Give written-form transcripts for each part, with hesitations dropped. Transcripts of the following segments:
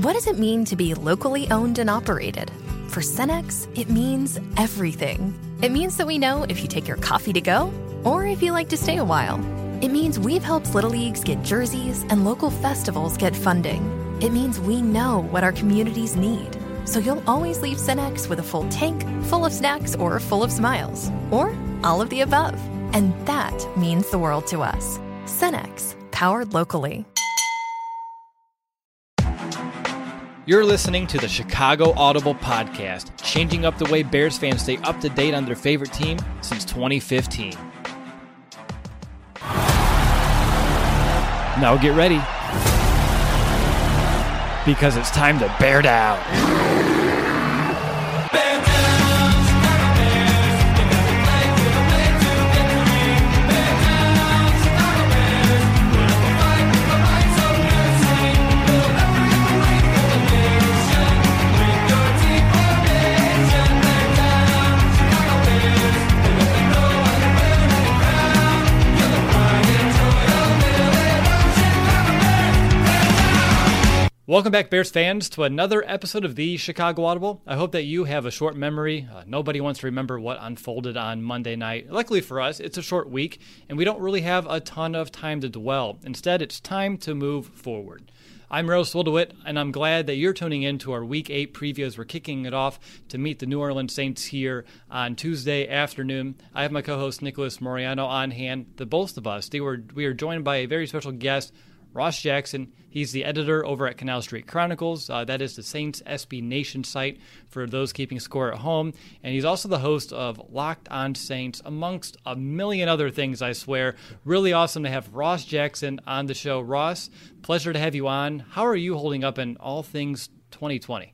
What does it mean to be locally owned and operated? For Cenex, it means everything. It means that we know if you take your coffee to go or if you like to stay a while. It means we've helped Little Leagues get jerseys and local festivals get funding. It means we know what our communities need. So you'll always leave Cenex with a full tank, full of snacks, or full of smiles. Or all of the above. And that means the world to us. Cenex, powered locally. You're listening to the Chicago Audible Podcast, changing up the way Bears fans stay up to date on their favorite team since 2015. Now get ready, because it's time to bear down. Welcome back, Bears fans, to another episode of the Chicago Audible. I hope that you have a short memory. Nobody wants to remember what unfolded on Monday night. Luckily for us, it's a short week, and we don't really have a ton of time to dwell. Instead, it's time to move forward. I'm Rose Woldowit, and I'm glad that you're tuning in to our Week 8 preview as we're kicking it off to meet the New Orleans Saints here on Tuesday afternoon. I have my co-host Nicholas Moriano on hand. The both of us, we are joined by a very special guest, Ross Jackson. He's the editor over at Canal Street Chronicles. That is the Saints SB Nation site for those keeping score at home. And he's also the host of Locked On Saints, amongst a million other things, I swear. Really awesome to have Ross Jackson on the show. Ross, pleasure to have you on. How are you holding up in all things 2020?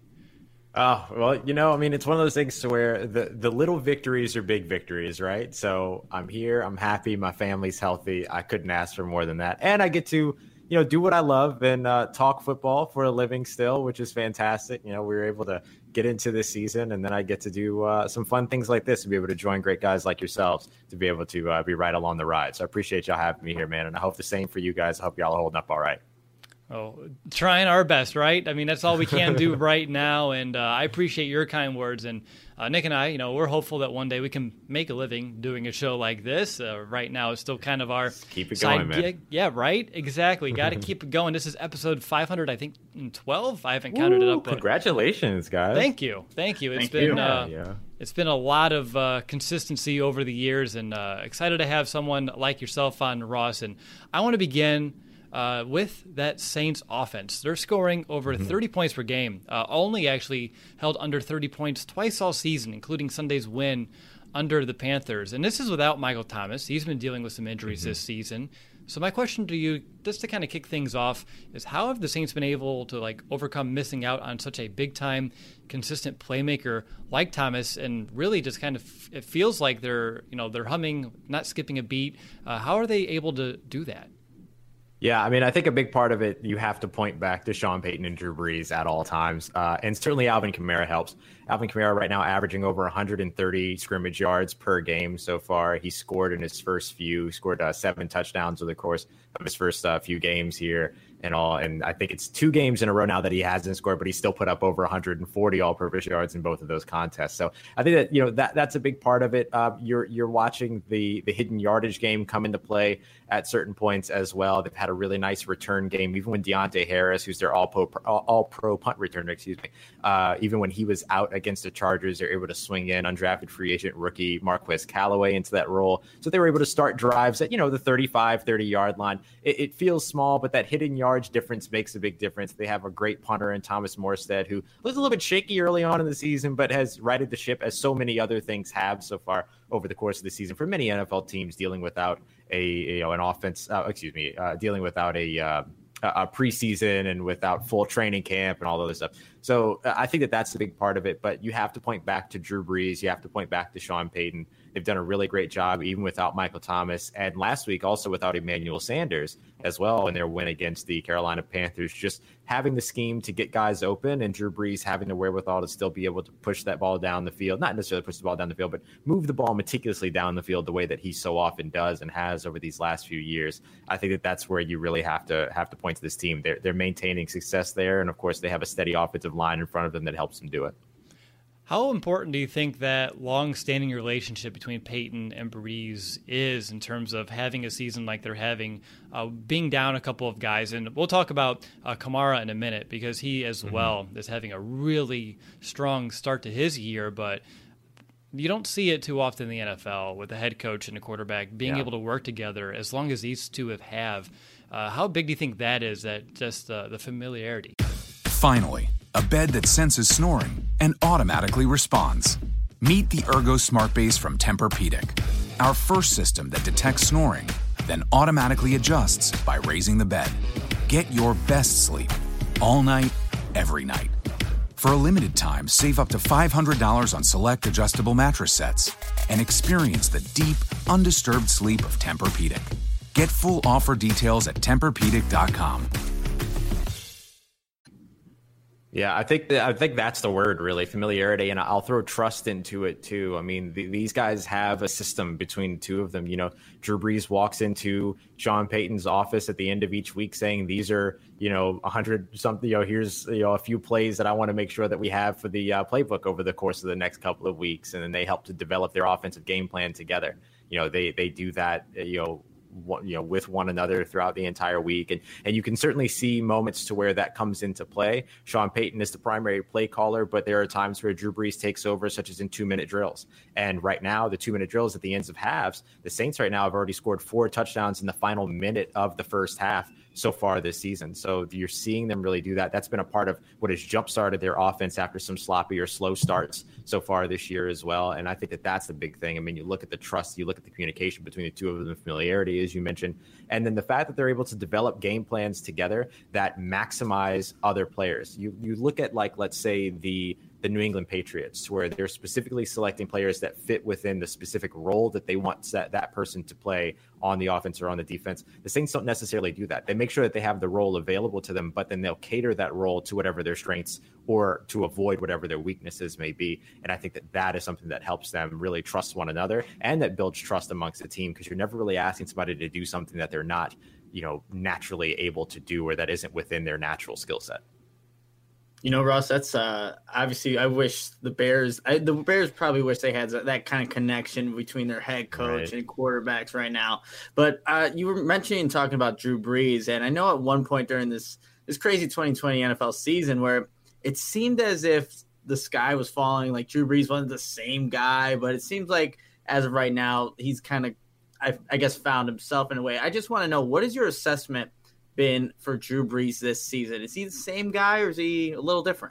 Oh, well, it's one of those things to where the little victories are big victories, right? So I'm here, I'm happy, my family's healthy. I couldn't ask for more than that. And I get to do what I love and talk football for a living still, which is fantastic. We were able to get into this season, and then I get to do some fun things like this and be able to join great guys like yourselves to be able to be right along the ride. So I appreciate y'all having me here, man. And I hope the same for you guys. I hope y'all are holding up all right. Oh, trying our best, right? I mean, that's all we can do right now, and I appreciate your kind words. And Nick and I, we're hopeful that one day we can make a living doing a show like this. Right now, it's still kind of our keep it going, man. Gig. Yeah, right? Exactly. Got to keep it going. This is episode 500, I think, 12. I haven't counted it up. But congratulations, guys. Thank you. It's been a lot of consistency over the years, and excited to have someone like yourself on, Ross. And I want to begin with that Saints offense. They're scoring over 30 points per game, only actually held under 30 points twice all season, including Sunday's win under the Panthers. And this is without Michael Thomas. He's been dealing with some injuries this season. So my question to you, just to kind of kick things off, is how have the Saints been able to overcome missing out on such a big-time, consistent playmaker like Thomas, and really just kind of, it feels like they're humming, not skipping a beat. How are they able to do that? Yeah, I think a big part of it, you have to point back to Sean Payton and Drew Brees at all times. And certainly Alvin Kamara helps. Alvin Kamara right now averaging over 130 scrimmage yards per game so far. He scored in his first few, scored 7 touchdowns over the course of his first few games here and all. And I think it's 2 games in a row now that he hasn't scored, but he still put up over 140 all-purpose yards in both of those contests. So I think that that's a big part of it. You're watching the hidden yardage game come into play at certain points as well. They've had a really nice return game, even when Deontay Harris, who's their all-pro punt returner, even when he was out against the Chargers, they're able to swing in undrafted free agent rookie Marquez Callaway into that role. So they were able to start drives at, the 35, 30-yard line. It feels small, but that hidden yardage difference makes a big difference. They have a great punter in Thomas Morstead, who was a little bit shaky early on in the season, but has righted the ship, as so many other things have so far over the course of the season for many NFL teams dealing without an offense, dealing without a preseason and without full training camp and all other stuff. So I think that's the big part of it. But you have to point back to Drew Brees. You have to point back to Sean Payton. They've done a really great job, even without Michael Thomas. And last week, also without Emmanuel Sanders as well in their win against the Carolina Panthers, just having the scheme to get guys open and Drew Brees having the wherewithal to still be able to push that ball down the field, not necessarily push the ball down the field, but move the ball meticulously down the field the way that he so often does and has over these last few years. I think that that's where you really have to point to this team. They're maintaining success there. And of course, they have a steady offensive line in front of them that helps them do it. How important do you think that long-standing relationship between Peyton and Brees is in terms of having a season like they're having, being down a couple of guys? And we'll talk about Kamara in a minute because he as well is having a really strong start to his year, but you don't see it too often in the NFL with a head coach and a quarterback being able to work together as long as these two have. How big do you think that is, that just the familiarity? Finally, a bed that senses snoring and automatically responds. Meet the Ergo Smart Base from Tempur-Pedic, our first system that detects snoring, then automatically adjusts by raising the bed. Get your best sleep all night, every night. For a limited time, save up to $500 on select adjustable mattress sets and experience the deep, undisturbed sleep of Tempur-Pedic. Get full offer details at TempurPedic.com. Yeah, I think that's the word, really, familiarity, and I'll throw trust into it too. I mean, these guys have a system between the two of them. You know, Drew Brees walks into Sean Payton's office at the end of each week saying, "These are 100 something. Here's a few plays that I want to make sure that we have for the playbook over the course of the next couple of weeks," and then they help to develop their offensive game plan together. They do that. With one another throughout the entire week. And you can certainly see moments to where that comes into play. Sean Payton is the primary play caller, but there are times where Drew Brees takes over, such as in 2-minute drills. And right now, the 2-minute drills at the ends of halves, the Saints right now have already scored 4 touchdowns in the final minute of the first half so far this season. So you're seeing them really do that. That's been a part of what has jump-started their offense after some sloppy or slow starts so far this year as well. And I think that that's the big thing. I mean, you look at the trust, you look at the communication between the two of them, familiarity, as you mentioned, and then the fact that they're able to develop game plans together that maximize other players. You look at, like, let's say the New England Patriots, where they're specifically selecting players that fit within the specific role that they want that person to play on the offense or on the defense. The Saints don't necessarily do that. They make sure that they have the role available to them, but then they'll cater that role to whatever their strengths or to avoid whatever their weaknesses may be. And I think that that is something that helps them really trust one another and that builds trust amongst the team, because you're never really asking somebody to do something that they're not, naturally able to do or that isn't within their natural skill set. Ross, that's obviously, I wish the Bears probably wish they had that kind of connection between their head coach and quarterbacks right now. But you were mentioning talking about Drew Brees, and I know at one point during this crazy 2020 NFL season where it seemed as if the sky was falling, like Drew Brees wasn't the same guy, but it seems like as of right now, he's kind of, I guess, found himself in a way. I just want to know, what is your assessment been for Drew Brees this season? Is he the same guy or is he a little different?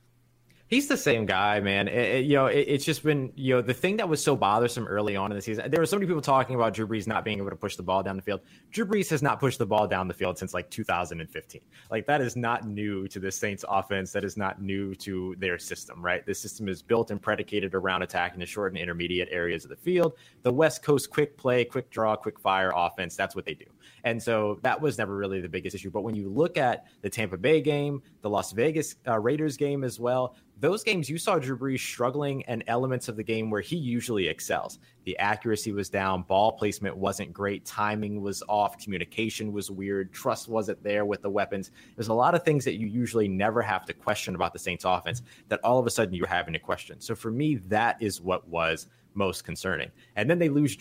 He's the same guy, man. It's just been, the thing that was so bothersome early on in the season, there were so many people talking about Drew Brees not being able to push the ball down the field. Drew Brees has not pushed the ball down the field since like 2015. Like, that is not new to the Saints offense. That is not new to their system, right? The system is built and predicated around attacking the short and intermediate areas of the field. The West Coast quick play, quick draw, quick fire offense, that's what they do. And so that was never really the biggest issue. But when you look at the Tampa Bay game, the Las Vegas Raiders game as well, those games you saw Drew Brees struggling and elements of the game where he usually excels. The accuracy was down, ball placement wasn't great, timing was off, communication was weird, trust wasn't there with the weapons. There's a lot of things that you usually never have to question about the Saints offense that all of a sudden you're having to question. So for me, that is what was most concerning. And then they lose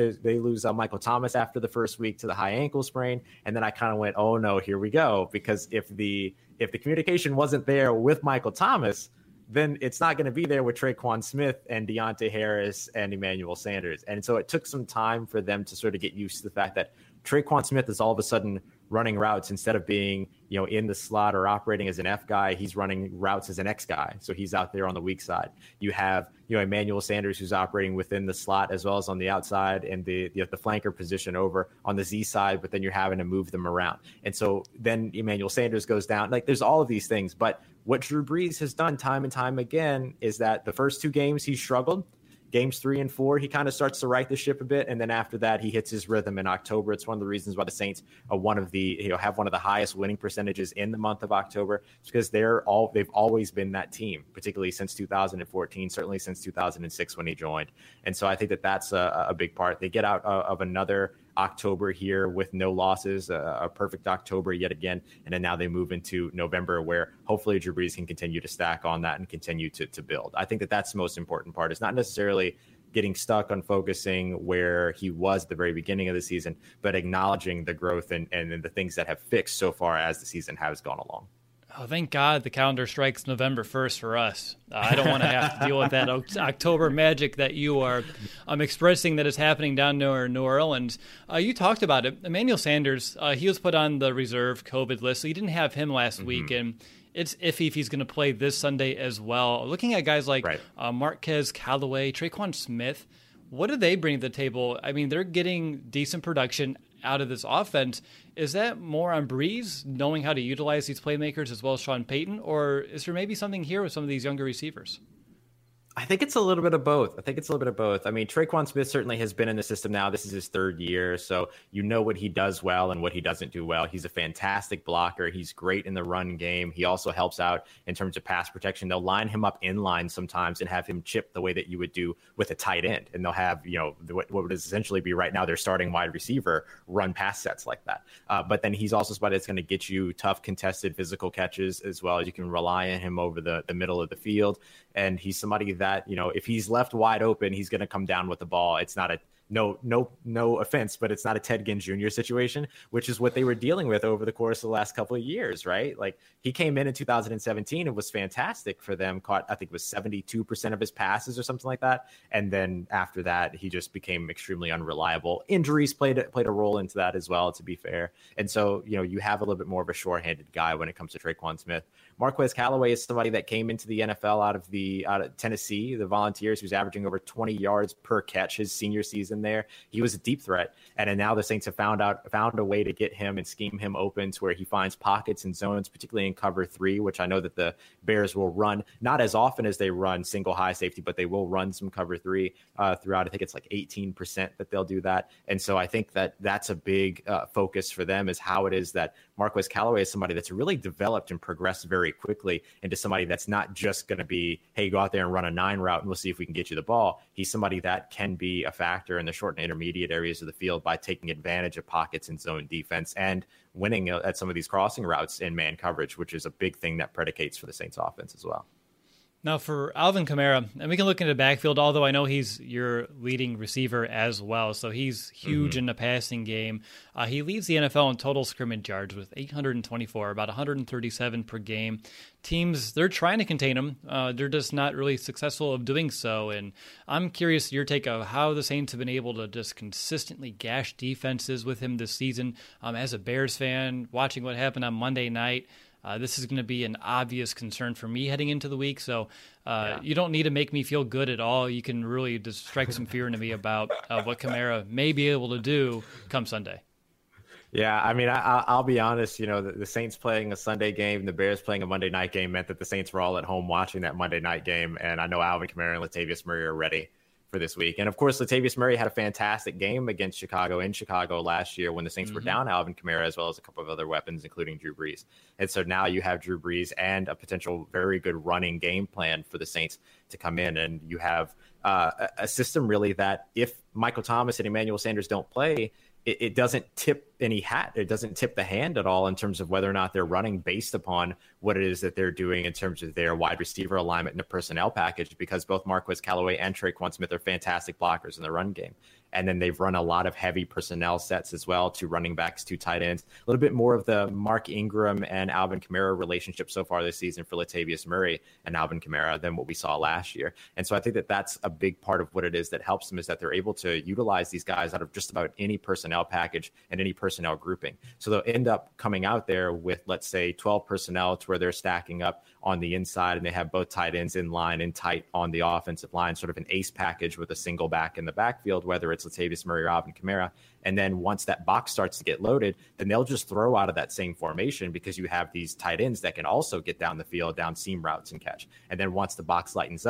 Michael Thomas after the first week to the high ankle sprain. And then I kind of went, oh no, here we go. Because if the communication wasn't there with Michael Thomas, then it's not going to be there with Tre'Quan Smith and Deontay Harris and Emmanuel Sanders. And so it took some time for them to sort of get used to the fact that Tre'Quan Smith is all of a sudden running routes instead of being, in the slot or operating as an F guy. He's running routes as an X guy. So he's out there on the weak side. You have, Emmanuel Sanders, who's operating within the slot as well as on the outside, and the flanker position over on the Z side, but then you're having to move them around. And so then Emmanuel Sanders goes down. Like, there's all of these things. But what Drew Brees has done time and time again is that the first 2 games he struggled. games 3 and 4, he kind of starts to right the ship a bit. And then after that, he hits his rhythm in October. It's one of the reasons why the Saints are have one of the highest winning percentages in the month of October. It's because they've always been that team, particularly since 2014, certainly since 2006 when he joined. And so I think that's a big part. They get out of another October here with no losses, a perfect October yet again. And then now they move into November, where hopefully Drew Brees can continue to stack on that and continue to build. I think that's the most important part. It's not necessarily getting stuck on focusing where he was at the very beginning of the season, but acknowledging the growth and the things that have fixed so far as the season has gone along. Oh, thank God the calendar strikes November 1st for us. I don't want to have to deal with that October magic that you are expressing that is happening down near New Orleans. You talked about it. Emmanuel Sanders, he was put on the reserve COVID list, so you didn't have him last week, and it's iffy if he's going to play this Sunday as well. Looking at guys like Marquez Callaway, Tre'Quan Smith, what do they bring to the table? I mean, they're getting decent production out of this offense. Is that more on Brees knowing how to utilize these playmakers as well as Sean Payton, or is there maybe something here with some of these younger receivers? I think it's a little bit of both. I mean, Tre'Quan Smith certainly has been in the system now. This is his third year, so you know what he does well and what he doesn't do well. He's a fantastic blocker. He's great in the run game. He also helps out in terms of pass protection. They'll line him up in line sometimes and have him chip the way that you would do with a tight end. And they'll have, what would essentially be right now their starting wide receiver run pass sets like that. But then he's also somebody that's going to get you tough, contested, physical catches as well. You can rely on him over the middle of the field. And he's somebody that, if he's left wide open, he's going to come down with the ball. It's not no offense, but it's not a Ted Ginn Jr. situation, which is what they were dealing with over the course of the last couple of years, right? Like he came in 2017 and was fantastic for them, caught, I think it was 72% of his passes or something like that. And then after that, he just became extremely unreliable. Injuries played a role into that as well, to be fair. And so, you have a little bit more of a sure-handed guy when it comes to Tre'Quan Smith. Marquez Callaway is somebody that came into the NFL out of Tennessee, the Volunteers. He was averaging over 20 yards per catch his senior season there. He was a deep threat. And then now the Saints have found a way to get him and scheme him open to where he finds pockets and zones, particularly in cover 3, which I know that the Bears will run, not as often as they run single high safety, but they will run some cover 3 throughout. I think it's like 18% that they'll do that. And so I think that's a big focus for them, is how it is that Marquez Callaway is somebody that's really developed and progressed very quickly into somebody that's not just going to be, hey, go out there and run a 9 route and we'll see if we can get you the ball. He's somebody that can be a factor in the short and intermediate areas of the field by taking advantage of pockets and zone defense and winning at some of these crossing routes in man coverage, which is a big thing that predicates for the Saints offense as well. Now for Alvin Kamara, and we can look into the backfield, although I know he's your leading receiver as well, so he's huge in the passing game. He leads the NFL in total scrimmage yards with 824, about 137 per game. Teams, they're trying to contain him. They're just not really successful of doing so, and I'm curious your take of how the Saints have been able to just consistently gash defenses with him this season. As a Bears fan, watching what happened on Monday night, this is going to be an obvious concern for me heading into the week. So you don't need to make me feel good at all. You can really just strike some fear into me about what Kamara may be able to do come Sunday. Yeah, I mean, I'll be honest, the Saints playing a Sunday game, the Bears playing a Monday night game meant that the Saints were all at home watching that Monday night game. And I know Alvin Kamara and Latavius Murray are ready for this week. And of course, Latavius Murray had a fantastic game against Chicago in Chicago last year when the Saints were down Alvin Kamara, as well as a couple of other weapons, including Drew Brees. And so now you have Drew Brees and a potential very good running game plan for the Saints to come in. And you have a system really that if Michael Thomas and Emmanuel Sanders don't play, it doesn't tip any hat. It doesn't tip the hand at all in terms of whether or not they're running based upon what it is that they're doing in terms of their wide receiver alignment and the personnel package, because both Marquez Callaway and Tre'Quan Smith are fantastic blockers in the run game. And then they've run a lot of heavy personnel sets as well, 2 running backs, 2 tight ends, a little bit more of the Mark Ingram and Alvin Kamara relationship so far this season for Latavius Murray and Alvin Kamara than what we saw last year. And so I think that that's a big part of what it is that helps them, is that they're able to utilize these guys out of just about any personnel package and any personnel grouping. So they'll end up coming out there with, let's say, 12 personnel to where they're stacking up on the inside and they have both tight ends in line and tight on the offensive line, sort of an ace package with a single back in the backfield, whether it's Latavius Murray or Alvin Kamara. And then once that box starts to get loaded, then they'll just throw out of that same formation, because you have these tight ends that can also get down the field, down seam routes and catch. And then once the box lightens up,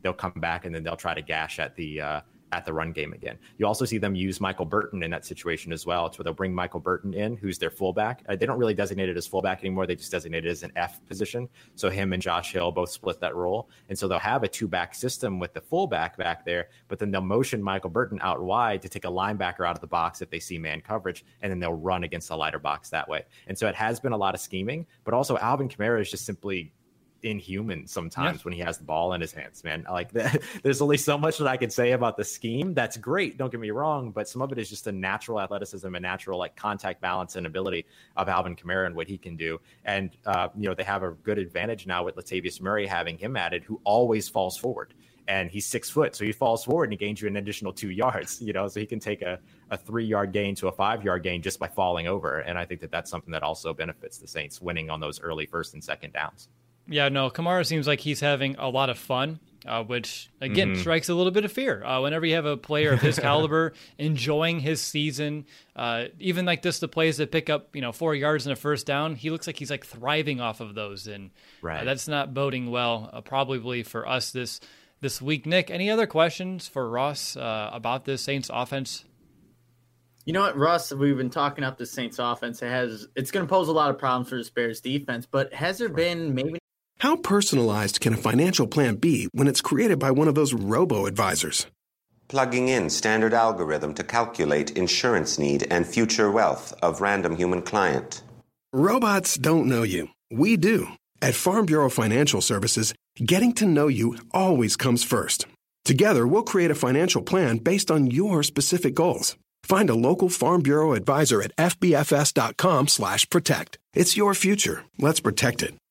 they'll come back and then they'll try to gash at the run game again. You also see them use Michael Burton in that situation as well. So they'll bring Michael Burton in, who's their fullback. They don't really designate it as fullback anymore. They just designate it as an F position. So him and Josh Hill both split that role. And so they'll have a 2-back system with the fullback back there, but then they'll motion Michael Burton out wide to take a linebacker out of the box if they see man coverage, and then they'll run against the lighter box that way. And so it has been a lot of scheming, but also Alvin Kamara is just simply inhuman sometimes when he has the ball in his hands, man. Like there's only so much that I could say about the scheme. That's great, don't get me wrong, but some of it is just a natural athleticism and natural like contact balance and ability of Alvin Kamara and what he can do. And they have a good advantage now with Latavius Murray having him added, who always falls forward. And he's 6 foot, so he falls forward and he gains you an additional 2 yards, so he can take a 3-yard gain to a 5-yard gain just by falling over. And I think that that's something that also benefits the Saints winning on those early first and second downs. Yeah, no, Kamara seems like he's having a lot of fun, which, again, strikes a little bit of fear. Whenever you have a player of his caliber enjoying his season, even like this, the plays that pick up, 4 yards and a first down, he looks like he's like thriving off of those. And that's not boding well, probably for us this week. Nick, any other questions for Ross about this Saints offense? You know what, Russ, we've been talking up the Saints offense. It's going to pose a lot of problems for the Bears defense, but has there been maybe... How personalized can a financial plan be when it's created by one of those robo-advisors? Plugging in standard algorithm to calculate insurance need and future wealth of random human client. Robots don't know you. We do. At Farm Bureau Financial Services, getting to know you always comes first. Together, we'll create a financial plan based on your specific goals. Find a local Farm Bureau advisor at fbfs.com/protect. It's your future. Let's protect it.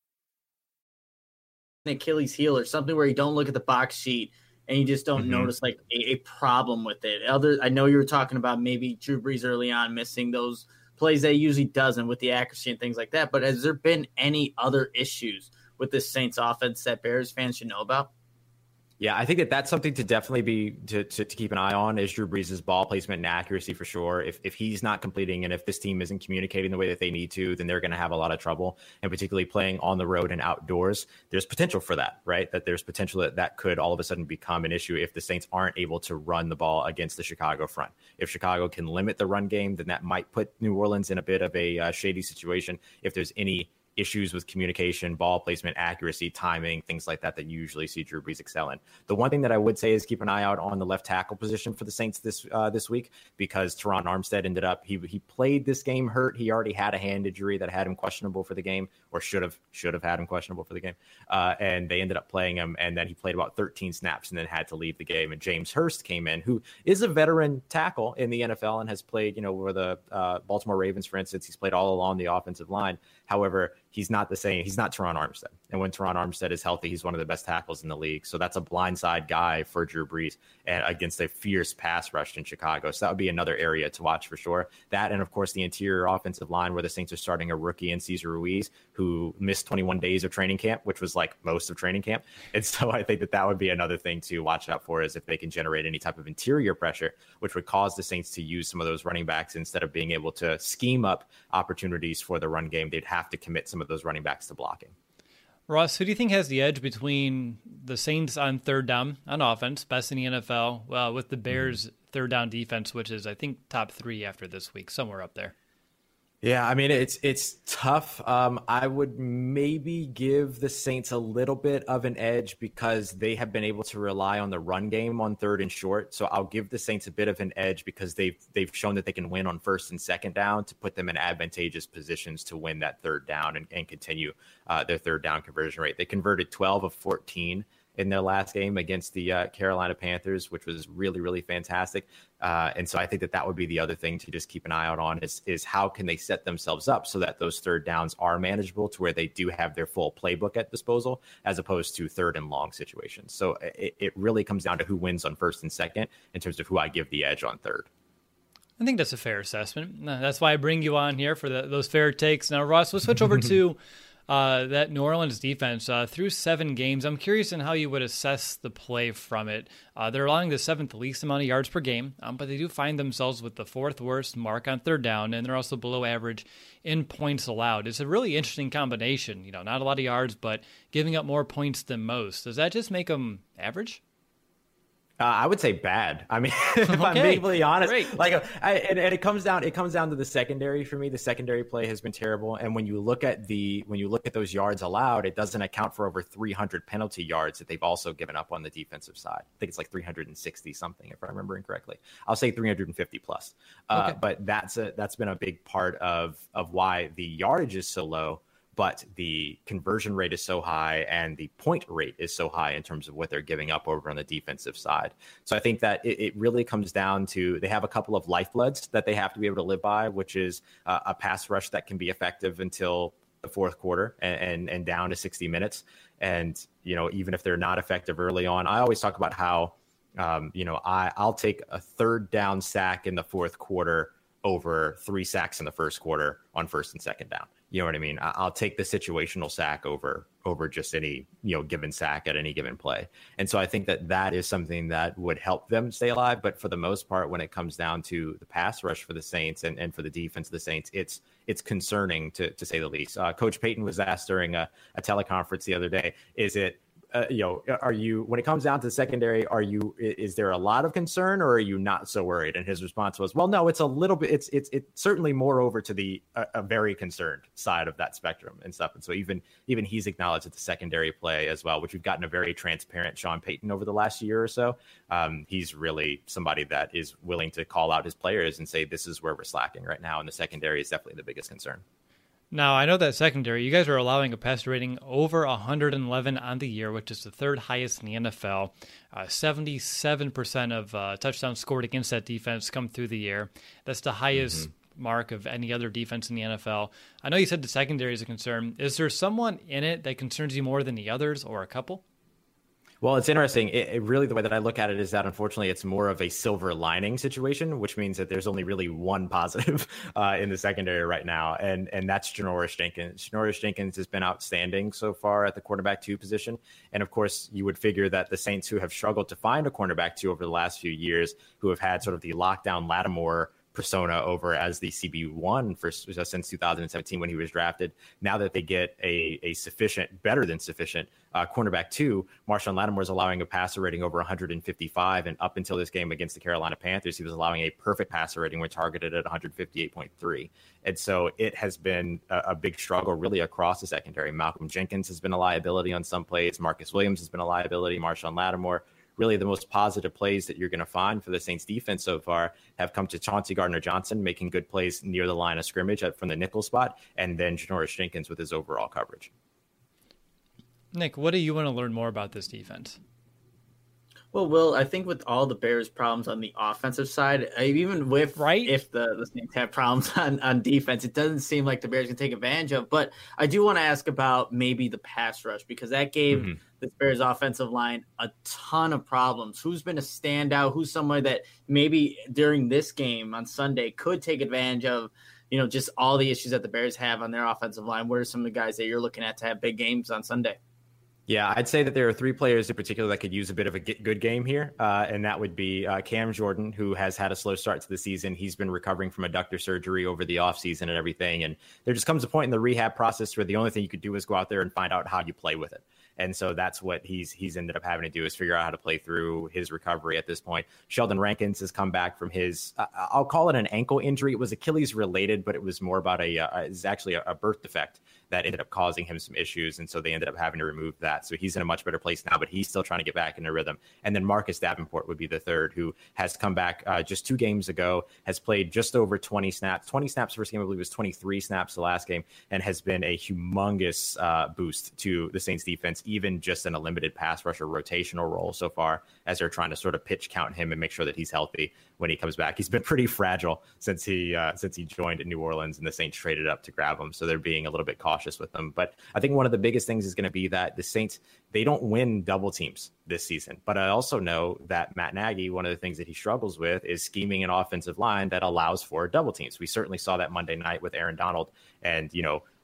Achilles heel or something where you don't look at the box sheet and you just don't notice like a problem with it. I know you were talking about maybe Drew Brees early on missing those plays that he usually doesn't with the accuracy and things like that. But has there been any other issues with this Saints offense that Bears fans should know about? Yeah, I think that that's something to definitely be to keep an eye on is Drew Brees' ball placement and accuracy for sure. If he's not completing and if this team isn't communicating the way that they need to, then they're going to have a lot of trouble. And particularly playing on the road and outdoors, there's potential for that, right? That there's potential that could all of a sudden become an issue if the Saints aren't able to run the ball against the Chicago front. If Chicago can limit the run game, then that might put New Orleans in a bit of a shady situation. If there's any issues with communication, ball placement, accuracy, timing, things like that you usually see Drew Brees excel in. The one thing that I would say is keep an eye out on the left tackle position for the Saints this week, because Teron Armstead ended up he played this game hurt. He already had a hand injury that had him questionable for the game, or should have had him questionable for the game, and they ended up playing him, and then he played about 13 snaps and then had to leave the game. And James Hurst came in, who is a veteran tackle in the NFL and has played, with the Baltimore Ravens, for instance. He's played all along the offensive line. However, he's not the same. He's not Teron Armstead. And when Teron Armstead is healthy, he's one of the best tackles in the league. So that's a blindside guy for Drew Brees and against a fierce pass rush in Chicago. So that would be another area to watch for sure. That, and of course, the interior offensive line where the Saints are starting a rookie in Cesar Ruiz, who missed 21 days of training camp, which was like most of training camp. And so I think that would be another thing to watch out for, is if they can generate any type of interior pressure, which would cause the Saints to use some of those running backs instead of being able to scheme up opportunities for the run game. They'd have to commit some of those running backs to blocking. Ross, who do you think has the edge between the Saints on third down on offense, best in the NFL, with the Bears' third down defense, which is, I think, top 3 after this week, somewhere up there? Yeah, I mean, it's tough. I would maybe give the Saints a little bit of an edge because they have been able to rely on the run game on third and short. So I'll give the Saints a bit of an edge because they've shown that they can win on first and second down to put them in advantageous positions to win that third down and continue their third down conversion rate. They converted 12 of 14 in their last game against the Carolina Panthers, which was really, really fantastic. And so I think that would be the other thing to just keep an eye out on is how can they set themselves up so that those third downs are manageable to where they do have their full playbook at disposal, as opposed to third and long situations. So it really comes down to who wins on first and second in terms of who I give the edge on third. I think that's a fair assessment. That's why I bring you on here for those fair takes. Now, Ross, we'll switch over to That New Orleans defense through 7 games, I'm curious in how you would assess the play from it. They're allowing the 7th least amount of yards per game, but they do find themselves with the 4th worst mark on third down, and they're also below average in points allowed. It's a really interesting combination. Not a lot of yards, but giving up more points than most. Does that just make them average? I would say bad. I mean, if I'm being completely honest, great. And it comes down to the secondary for me. The secondary play has been terrible. And when you look at those yards allowed, it doesn't account for over 300 penalty yards that they've also given up on the defensive side. I think it's like 360 something, if I remember incorrectly. I'll say 350 plus. Okay. But that's been a big part of why the yardage is so low. But the conversion rate is so high and the point rate is so high in terms of what they're giving up over on the defensive side. So I think that it really comes down to they have a couple of lifebloods that they have to be able to live by, which is a pass rush that can be effective until the fourth quarter and down to 60 minutes. And, even if they're not effective early on, I always talk about how, I'll take a third down sack in the fourth quarter over 3 sacks in the first quarter on first and second down. You know what I mean? I'll take the situational sack over just any, given sack at any given play. And so I think that is something that would help them stay alive. But for the most part, when it comes down to the pass rush for the Saints and for the defense of the Saints, it's concerning to say the least. Coach Payton was asked during a teleconference the other day, is it, are you, when it comes down to the secondary, is there a lot of concern or are you not so worried? And his response was, well, no, it's a little bit, it's certainly more over to the a very concerned side of that spectrum and stuff. And so even he's acknowledged that the secondary play as well, which we've gotten a very transparent Sean Payton over the last year or so. He's really somebody that is willing to call out his players and say, this is where we're slacking right now. And the secondary is definitely the biggest concern. Now, I know that secondary, you guys are allowing a passer rating over 111 on the year, which is the 3rd highest in the NFL. 77% of touchdowns scored against that defense come through the air. That's the highest mark of any other defense in the NFL. I know you said the secondary is a concern. Is there someone in it that concerns you more than the others or a couple? Well, it's interesting. It really, the way that I look at it is that unfortunately it's more of a silver lining situation, which means that there's only really one positive in the secondary right now, and that's Janoris Jenkins. Janoris Jenkins has been outstanding so far at the quarterback 2 position. And of course, you would figure that the Saints, who have struggled to find a cornerback 2 over the last few years, who have had sort of the lockdown Lattimore persona over as the CB1 since 2017 when he was drafted. Now that they get a sufficient, better than sufficient cornerback 2, Marshawn Lattimore is allowing a passer rating over 155, and up until this game against the Carolina Panthers, he was allowing a perfect passer rating when targeted at 158.3. And so it has been a big struggle really across the secondary. Malcolm Jenkins has been a liability on some plays. Marcus Williams has been a liability. Marshawn Lattimore. Really, the most positive plays that you're going to find for the Saints defense so far have come to Chauncey Gardner-Johnson making good plays near the line of scrimmage from the nickel spot, and then Janoris Jenkins with his overall coverage. Nick, what do you want to learn more about this defense? Well, Will, I think with all the Bears' problems on the offensive side, even with if the Saints have problems on defense, it doesn't seem like the Bears can take advantage of. But I do want to ask about maybe the pass rush, because that gave the Bears' offensive line a ton of problems. Who's been a standout? Who's somebody that maybe during this game on Sunday could take advantage of, just all the issues that the Bears have on their offensive line? What are some of the guys that you're looking at to have big games on Sunday? Yeah, I'd say that there are 3 players in particular that could use a bit of a good game here, and that would be Cam Jordan, who has had a slow start to the season. He's been recovering from adductor surgery over the offseason and everything, and there just comes a point in the rehab process where the only thing you could do is go out there and find out how you play with it. And so that's what he's ended up having to do, is figure out how to play through his recovery at this point. Sheldon Rankins has come back from his, I'll call it an ankle injury. It was Achilles related, but it was more about it's actually a birth defect that ended up causing him some issues. And so they ended up having to remove that. So he's in a much better place now, but he's still trying to get back into rhythm. And then Marcus Davenport would be the third, who has come back just 2 games ago, has played just over 20 snaps. 20 snaps first game, I believe, was 23 snaps the last game, and has been a humongous boost to the Saints defense, even just in a limited pass rusher rotational role so far, as they're trying to sort of pitch count him and make sure that he's healthy when he comes back. He's been pretty fragile since he joined in New Orleans, and the Saints traded up to grab him. So they're being a little bit cautious with them. But I think one of the biggest things is going to be that the Saints, they don't win double teams this season. But I also know that Matt Nagy, one of the things that he struggles with is scheming an offensive line that allows for double teams. We certainly saw that Monday night with Aaron Donald, and,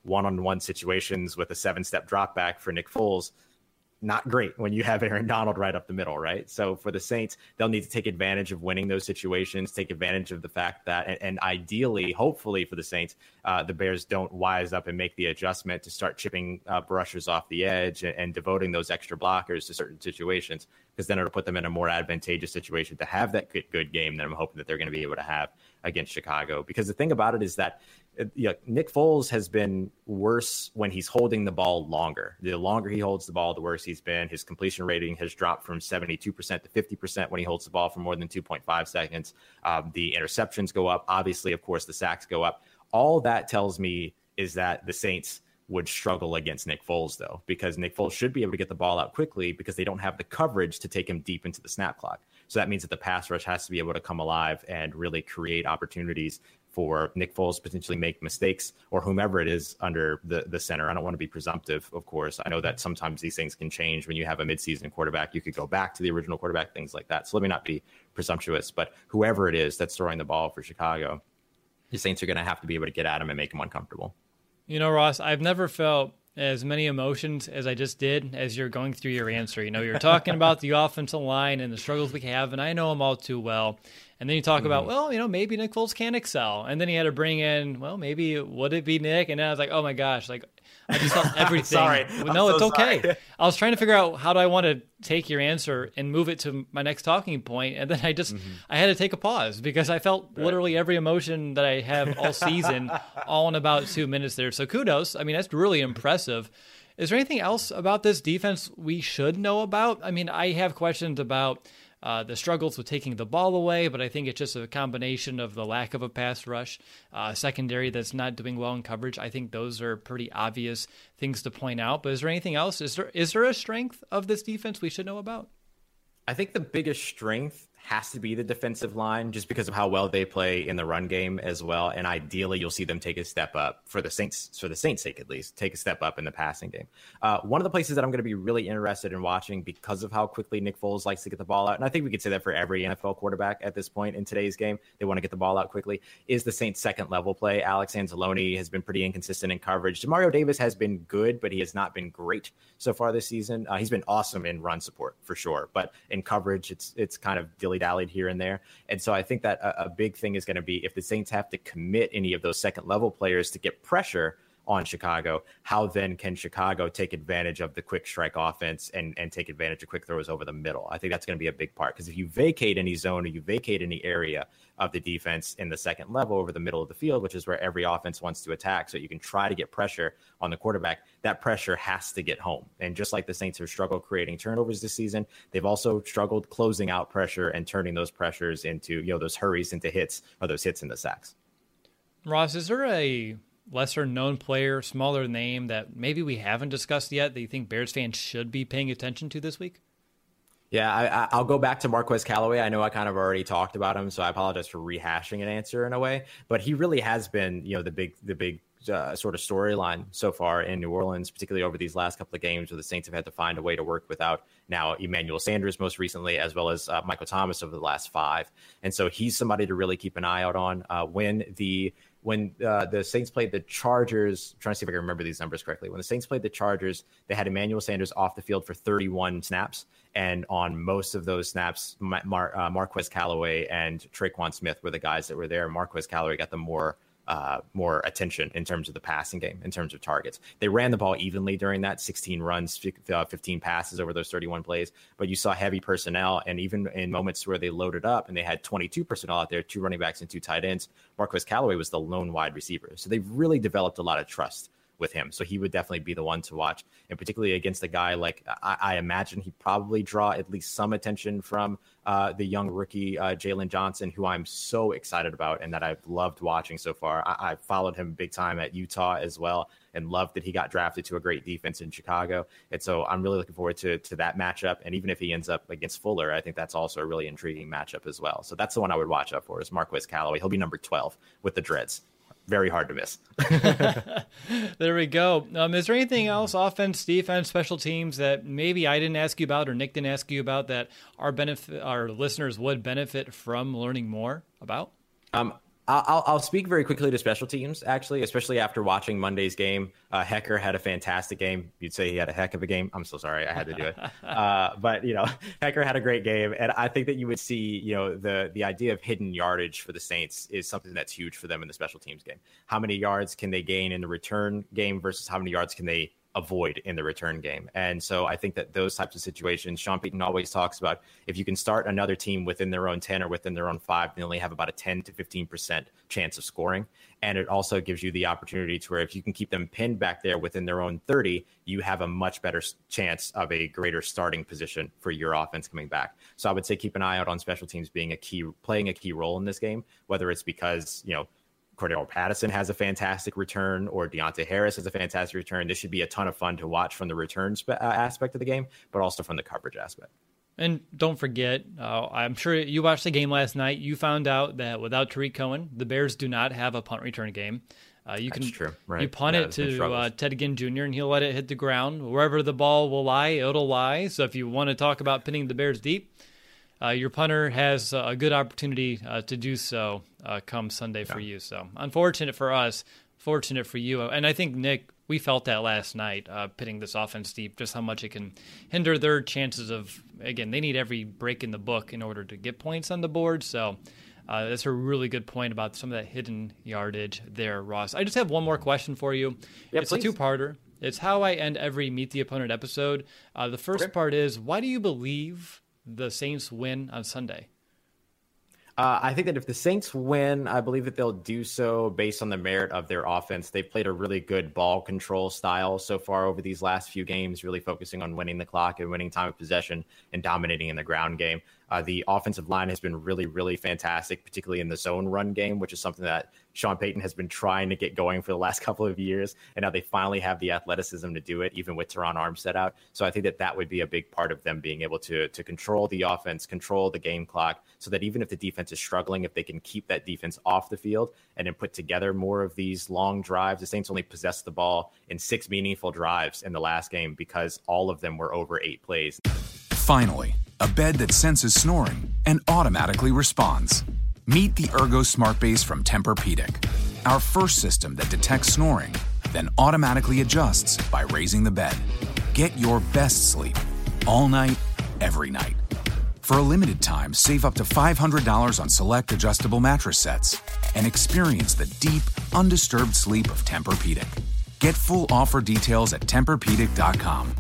one-on-one situations with a 7-step drop back for Nick Foles. Not great when you have Aaron Donald right up the middle, right? So for the Saints, they'll need to take advantage of winning those situations, take advantage of the fact that, and ideally, hopefully for the Saints, the Bears don't wise up and make the adjustment to start chipping rushers off the edge and devoting those extra blockers to certain situations, because then it'll put them in a more advantageous situation to have that good game that I'm hoping that they're going to be able to have against Chicago. Because the thing about it is that Nick Foles has been worse when he's holding the ball longer. The longer he holds the ball, the worse he's been. His completion rating has dropped from 72% to 50% when he holds the ball for more than 2.5 seconds. The interceptions go up. Obviously, of course, the sacks go up. All that tells me is that the Saints would struggle against Nick Foles, though, because Nick Foles should be able to get the ball out quickly because they don't have the coverage to take him deep into the snap clock. So that means that the pass rush has to be able to come alive and really create opportunities for Nick Foles to potentially make mistakes, or whomever it is under the center. I don't want to be presumptive, of course. I know that sometimes these things can change. When you have a midseason quarterback, you could go back to the original quarterback, things like that. So let me not be presumptuous, but whoever it is that's throwing the ball for Chicago, the Saints are going to have to be able to get at him and make him uncomfortable. You know, Ross, I've never felt as many emotions as I just did as you're going through your answer. You know, you're talking about the offensive line and the struggles we have, and I know them all too well. And then you talk about, well, you know, maybe Nick Foles can excel. And then he had to bring in, well, maybe would it be Nick? And then I was like, oh my gosh, like I just felt everything. Sorry. No, it's okay. Sorry. I was trying to figure out how do I want to take your answer and move it to my next talking point. And then I had to take a pause because I felt literally every emotion that I have all season all in about 2 minutes there. So kudos. I mean, that's really impressive. Is there anything else about this defense we should know about? I mean, I have questions about the struggles with taking the ball away, but I think it's just a combination of the lack of a pass rush, secondary that's not doing well in coverage. I think those are pretty obvious things to point out. But is there anything else? Is there a strength of this defense we should know about? I think the biggest strength has to be the defensive line, just because of how well they play in the run game as well. And ideally, you'll see them take a step up for the Saints' sake, at least, take a step up in the passing game. One of the places that I'm going to be really interested in watching, because of how quickly Nick Foles likes to get the ball out, and I think we could say that for every NFL quarterback at this point in today's game, they want to get the ball out quickly, is the Saints' second level play. Alex Anzalone has been pretty inconsistent in coverage. Demario Davis has been good, but he has not been great so far this season. He's been awesome in run support for sure, but in coverage, it's kind of dilly-dallied here and there. And so I think that a big thing is going to be if the Saints have to commit any of those second level players to get pressure on Chicago, how then can Chicago take advantage of the quick strike offense and take advantage of quick throws over the middle? I think that's going to be a big part, because if you vacate any zone or you vacate any area of the defense in the second level over the middle of the field, which is where every offense wants to attack, so you can try to get pressure on the quarterback, that pressure has to get home. And just like the Saints have struggled creating turnovers this season, they've also struggled closing out pressure and turning those pressures into, those hurries into hits, or those hits into sacks. Ross, is there a lesser known player, smaller name that maybe we haven't discussed yet that you think Bears fans should be paying attention to this week? Yeah, I'll go back to Marquez Callaway. I know I kind of already talked about him, so I apologize for rehashing an answer in a way, but he really has been, the big sort of storyline so far in New Orleans, particularly over these last couple of games where the Saints have had to find a way to work without now Emmanuel Sanders most recently, as well as Michael Thomas over the last 5. And so he's somebody to really keep an eye out on. When the Saints played the Chargers, I'm trying to see if I can remember these numbers correctly. When the Saints played the Chargers, they had Emmanuel Sanders off the field for 31 snaps. And on most of those snaps, Marquez Callaway and Traquan Smith were the guys that were there. Marquez Callaway got the more attention in terms of the passing game, in terms of targets. They ran the ball evenly during that, 16 runs, 15 passes over those 31 plays, but you saw heavy personnel, and even in moments where they loaded up and they had 22 personnel out there, 2 running backs and 2 tight ends, Marquez Callaway was the lone wide receiver. So they've really developed a lot of trust with him. So he would definitely be the one to watch, and particularly against a guy like, I imagine he'd probably draw at least some attention from the young rookie Jalen Johnson, who I'm so excited about and that I've loved watching so far. I followed him big time at Utah as well, and loved that he got drafted to a great defense in Chicago. And so I'm really looking forward to that matchup. And even if he ends up against Fuller, I think that's also a really intriguing matchup as well. So that's the one I would watch out for, is Marquez Callaway. He'll be number 12 with the dreads. Very hard to miss. There we go. Is there anything else, offense, defense, special teams, that maybe I didn't ask you about or Nick didn't ask you about that our listeners would benefit from learning more about? I'll speak very quickly to special teams, actually, especially after watching Monday's game. Hekker had a fantastic game. You'd say he had a heck of a game. I'm so sorry. I had to do it. But, Hekker had a great game. And I think that you would see, the idea of hidden yardage for the Saints is something that's huge for them in the special teams game. How many yards can they gain in the return game versus how many yards can they avoid in the return game? And so I think that those types of situations, Sean Payton always talks about, if you can start another team within their own 10 or within their own 5, they only have about a 10 to 15% chance of scoring. And it also gives you the opportunity to where if you can keep them pinned back there within their own 30, you have a much better chance of a greater starting position for your offense coming back. So I would say keep an eye out on special teams playing a key role in this game, whether it's because, Cordero Patterson has a fantastic return or Deontay Harris has a fantastic return. This should be a ton of fun to watch from the returns aspect of the game, but also from the coverage aspect. And don't forget, I'm sure you watched the game last night. You found out that without Tariq Cohen, the Bears do not have a punt return game. That's true. Right. You punt it to Ted Ginn Jr., and he'll let it hit the ground. Wherever the ball will lie, it'll lie. So if you want to talk about pinning the Bears deep, your punter has a good opportunity to do so come Sunday for you. So unfortunate for us, fortunate for you. And I think, Nick, we felt that last night, pitting this offense deep, just how much it can hinder their chances of, again, they need every break in the book in order to get points on the board. So that's a really good point about some of that hidden yardage there, Ross. I just have one more question for you. It's a two-parter. It's how I end every Meet the Opponent episode. The first part is, why do you believe the Saints win on Sunday? I think that if the Saints win, I believe that they'll do so based on the merit of their offense. They've played a really good ball control style so far over these last few games, really focusing on winning the clock and winning time of possession and dominating in the ground game. The offensive line has been really, really fantastic, particularly in the zone run game, which is something that Sean Payton has been trying to get going for the last couple of years. And now they finally have the athleticism to do it, even with Teron Armstead out. So I think that that would be a big part of them being able to control the offense, control the game clock, so that even if the defense is struggling, if they can keep that defense off the field and then put together more of these long drives. The Saints only possessed the ball in 6 meaningful drives in the last game because all of them were over 8 plays. Finally, a bed that senses snoring and automatically responds. Meet the Ergo Smart Base from Tempur-Pedic, our first system that detects snoring, then automatically adjusts by raising the bed. Get your best sleep all night, every night. For a limited time, save up to $500 on select adjustable mattress sets and experience the deep, undisturbed sleep of Tempur-Pedic. Get full offer details at TempurPedic.com.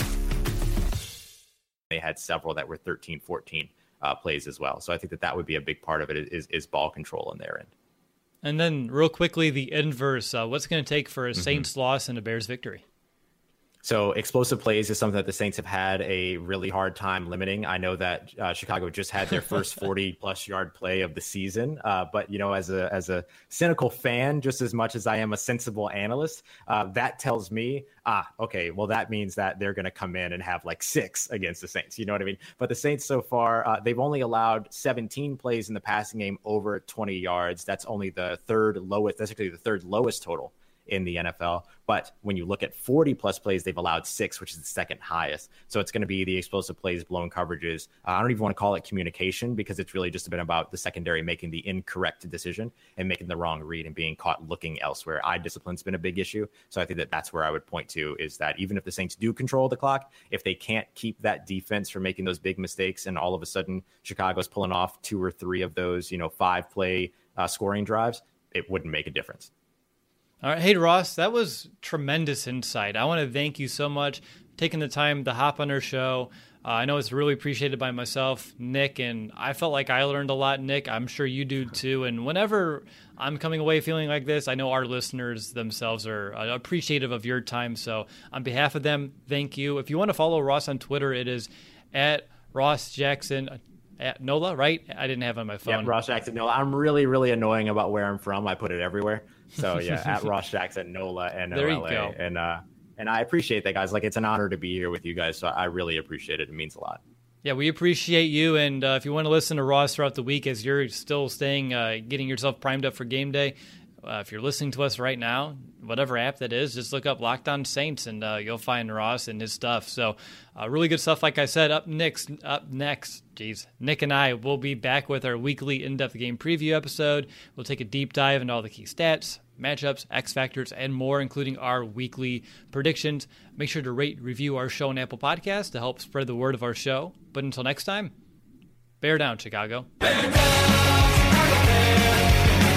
They had several that were 13, 14 plays as well. So I think that that would be a big part of it is ball control on their end. And then real quickly, the inverse. What's going to take for a Saints loss and a Bears victory? So explosive plays is something that the Saints have had a really hard time limiting. I know that Chicago just had their first 40-plus yard play of the season. But, as a cynical fan, just as much as I am a sensible analyst, that tells me, okay, well, that means that they're going to come in and have like 6 against the Saints. You know what I mean? But the Saints so far, they've only allowed 17 plays in the passing game over 20 yards. That's only the third lowest. That's actually the third lowest total in the NFL. But when you look at 40-plus plays, they've allowed 6, which is the second highest. So it's going to be the explosive plays, blown coverages. I don't even want to call it communication because it's really just been about the secondary making the incorrect decision and making the wrong read and being caught looking elsewhere. Eye discipline's been a big issue. So I think that that's where I would point to is that even if the Saints do control the clock, if they can't keep that defense from making those big mistakes and all of a sudden Chicago's pulling off 2 or 3 of those, 5-play scoring drives, it wouldn't make a difference. All right. Hey, Ross, that was tremendous insight. I want to thank you so much for taking the time to hop on our show. I know it's really appreciated by myself, Nick, and I felt like I learned a lot, Nick. I'm sure you do too. And whenever I'm coming away feeling like this, I know our listeners themselves are appreciative of your time. So on behalf of them, thank you. If you want to follow Ross on Twitter, it is at Ross Jackson. At NOLA, right? I didn't have it on my phone. Yeah, Ross Jackson NOLA. I'm really, really annoying about where I'm from. I put it everywhere. So yeah, at Ross Jackson NOLA and there you go. And I appreciate that, guys. Like, it's an honor to be here with you guys. So I really appreciate it. It means a lot. Yeah, we appreciate you. And if you want to listen to Ross throughout the week as you're still staying, getting yourself primed up for game day, If you're listening to us right now, whatever app that is, just look up Locked On Saints and you'll find Ross and his stuff. So really good stuff. Like I said, up next, Nick and I will be back with our weekly in-depth game preview episode. We'll take a deep dive into all the key stats, matchups, X factors, and more, including our weekly predictions. Make sure to rate, review our show on Apple Podcasts to help spread the word of our show. But until next time, bear down, Chicago. Bear down, Chicago Bears.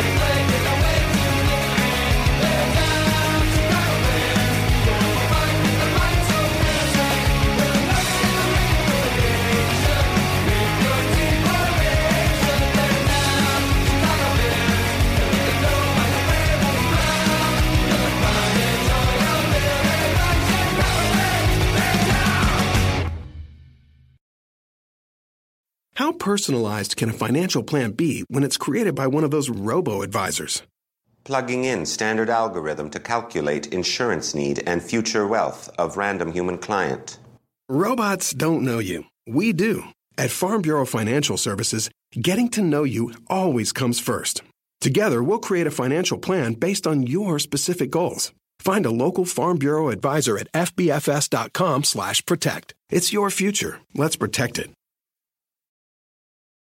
How personalized can a financial plan be when it's created by one of those robo-advisors? Plugging in standard algorithm to calculate insurance need and future wealth of random human client. Robots don't know you. We do. At Farm Bureau Financial Services, getting to know you always comes first. Together, we'll create a financial plan based on your specific goals. Find a local Farm Bureau advisor at fbfs.com/protect. It's your future. Let's protect it.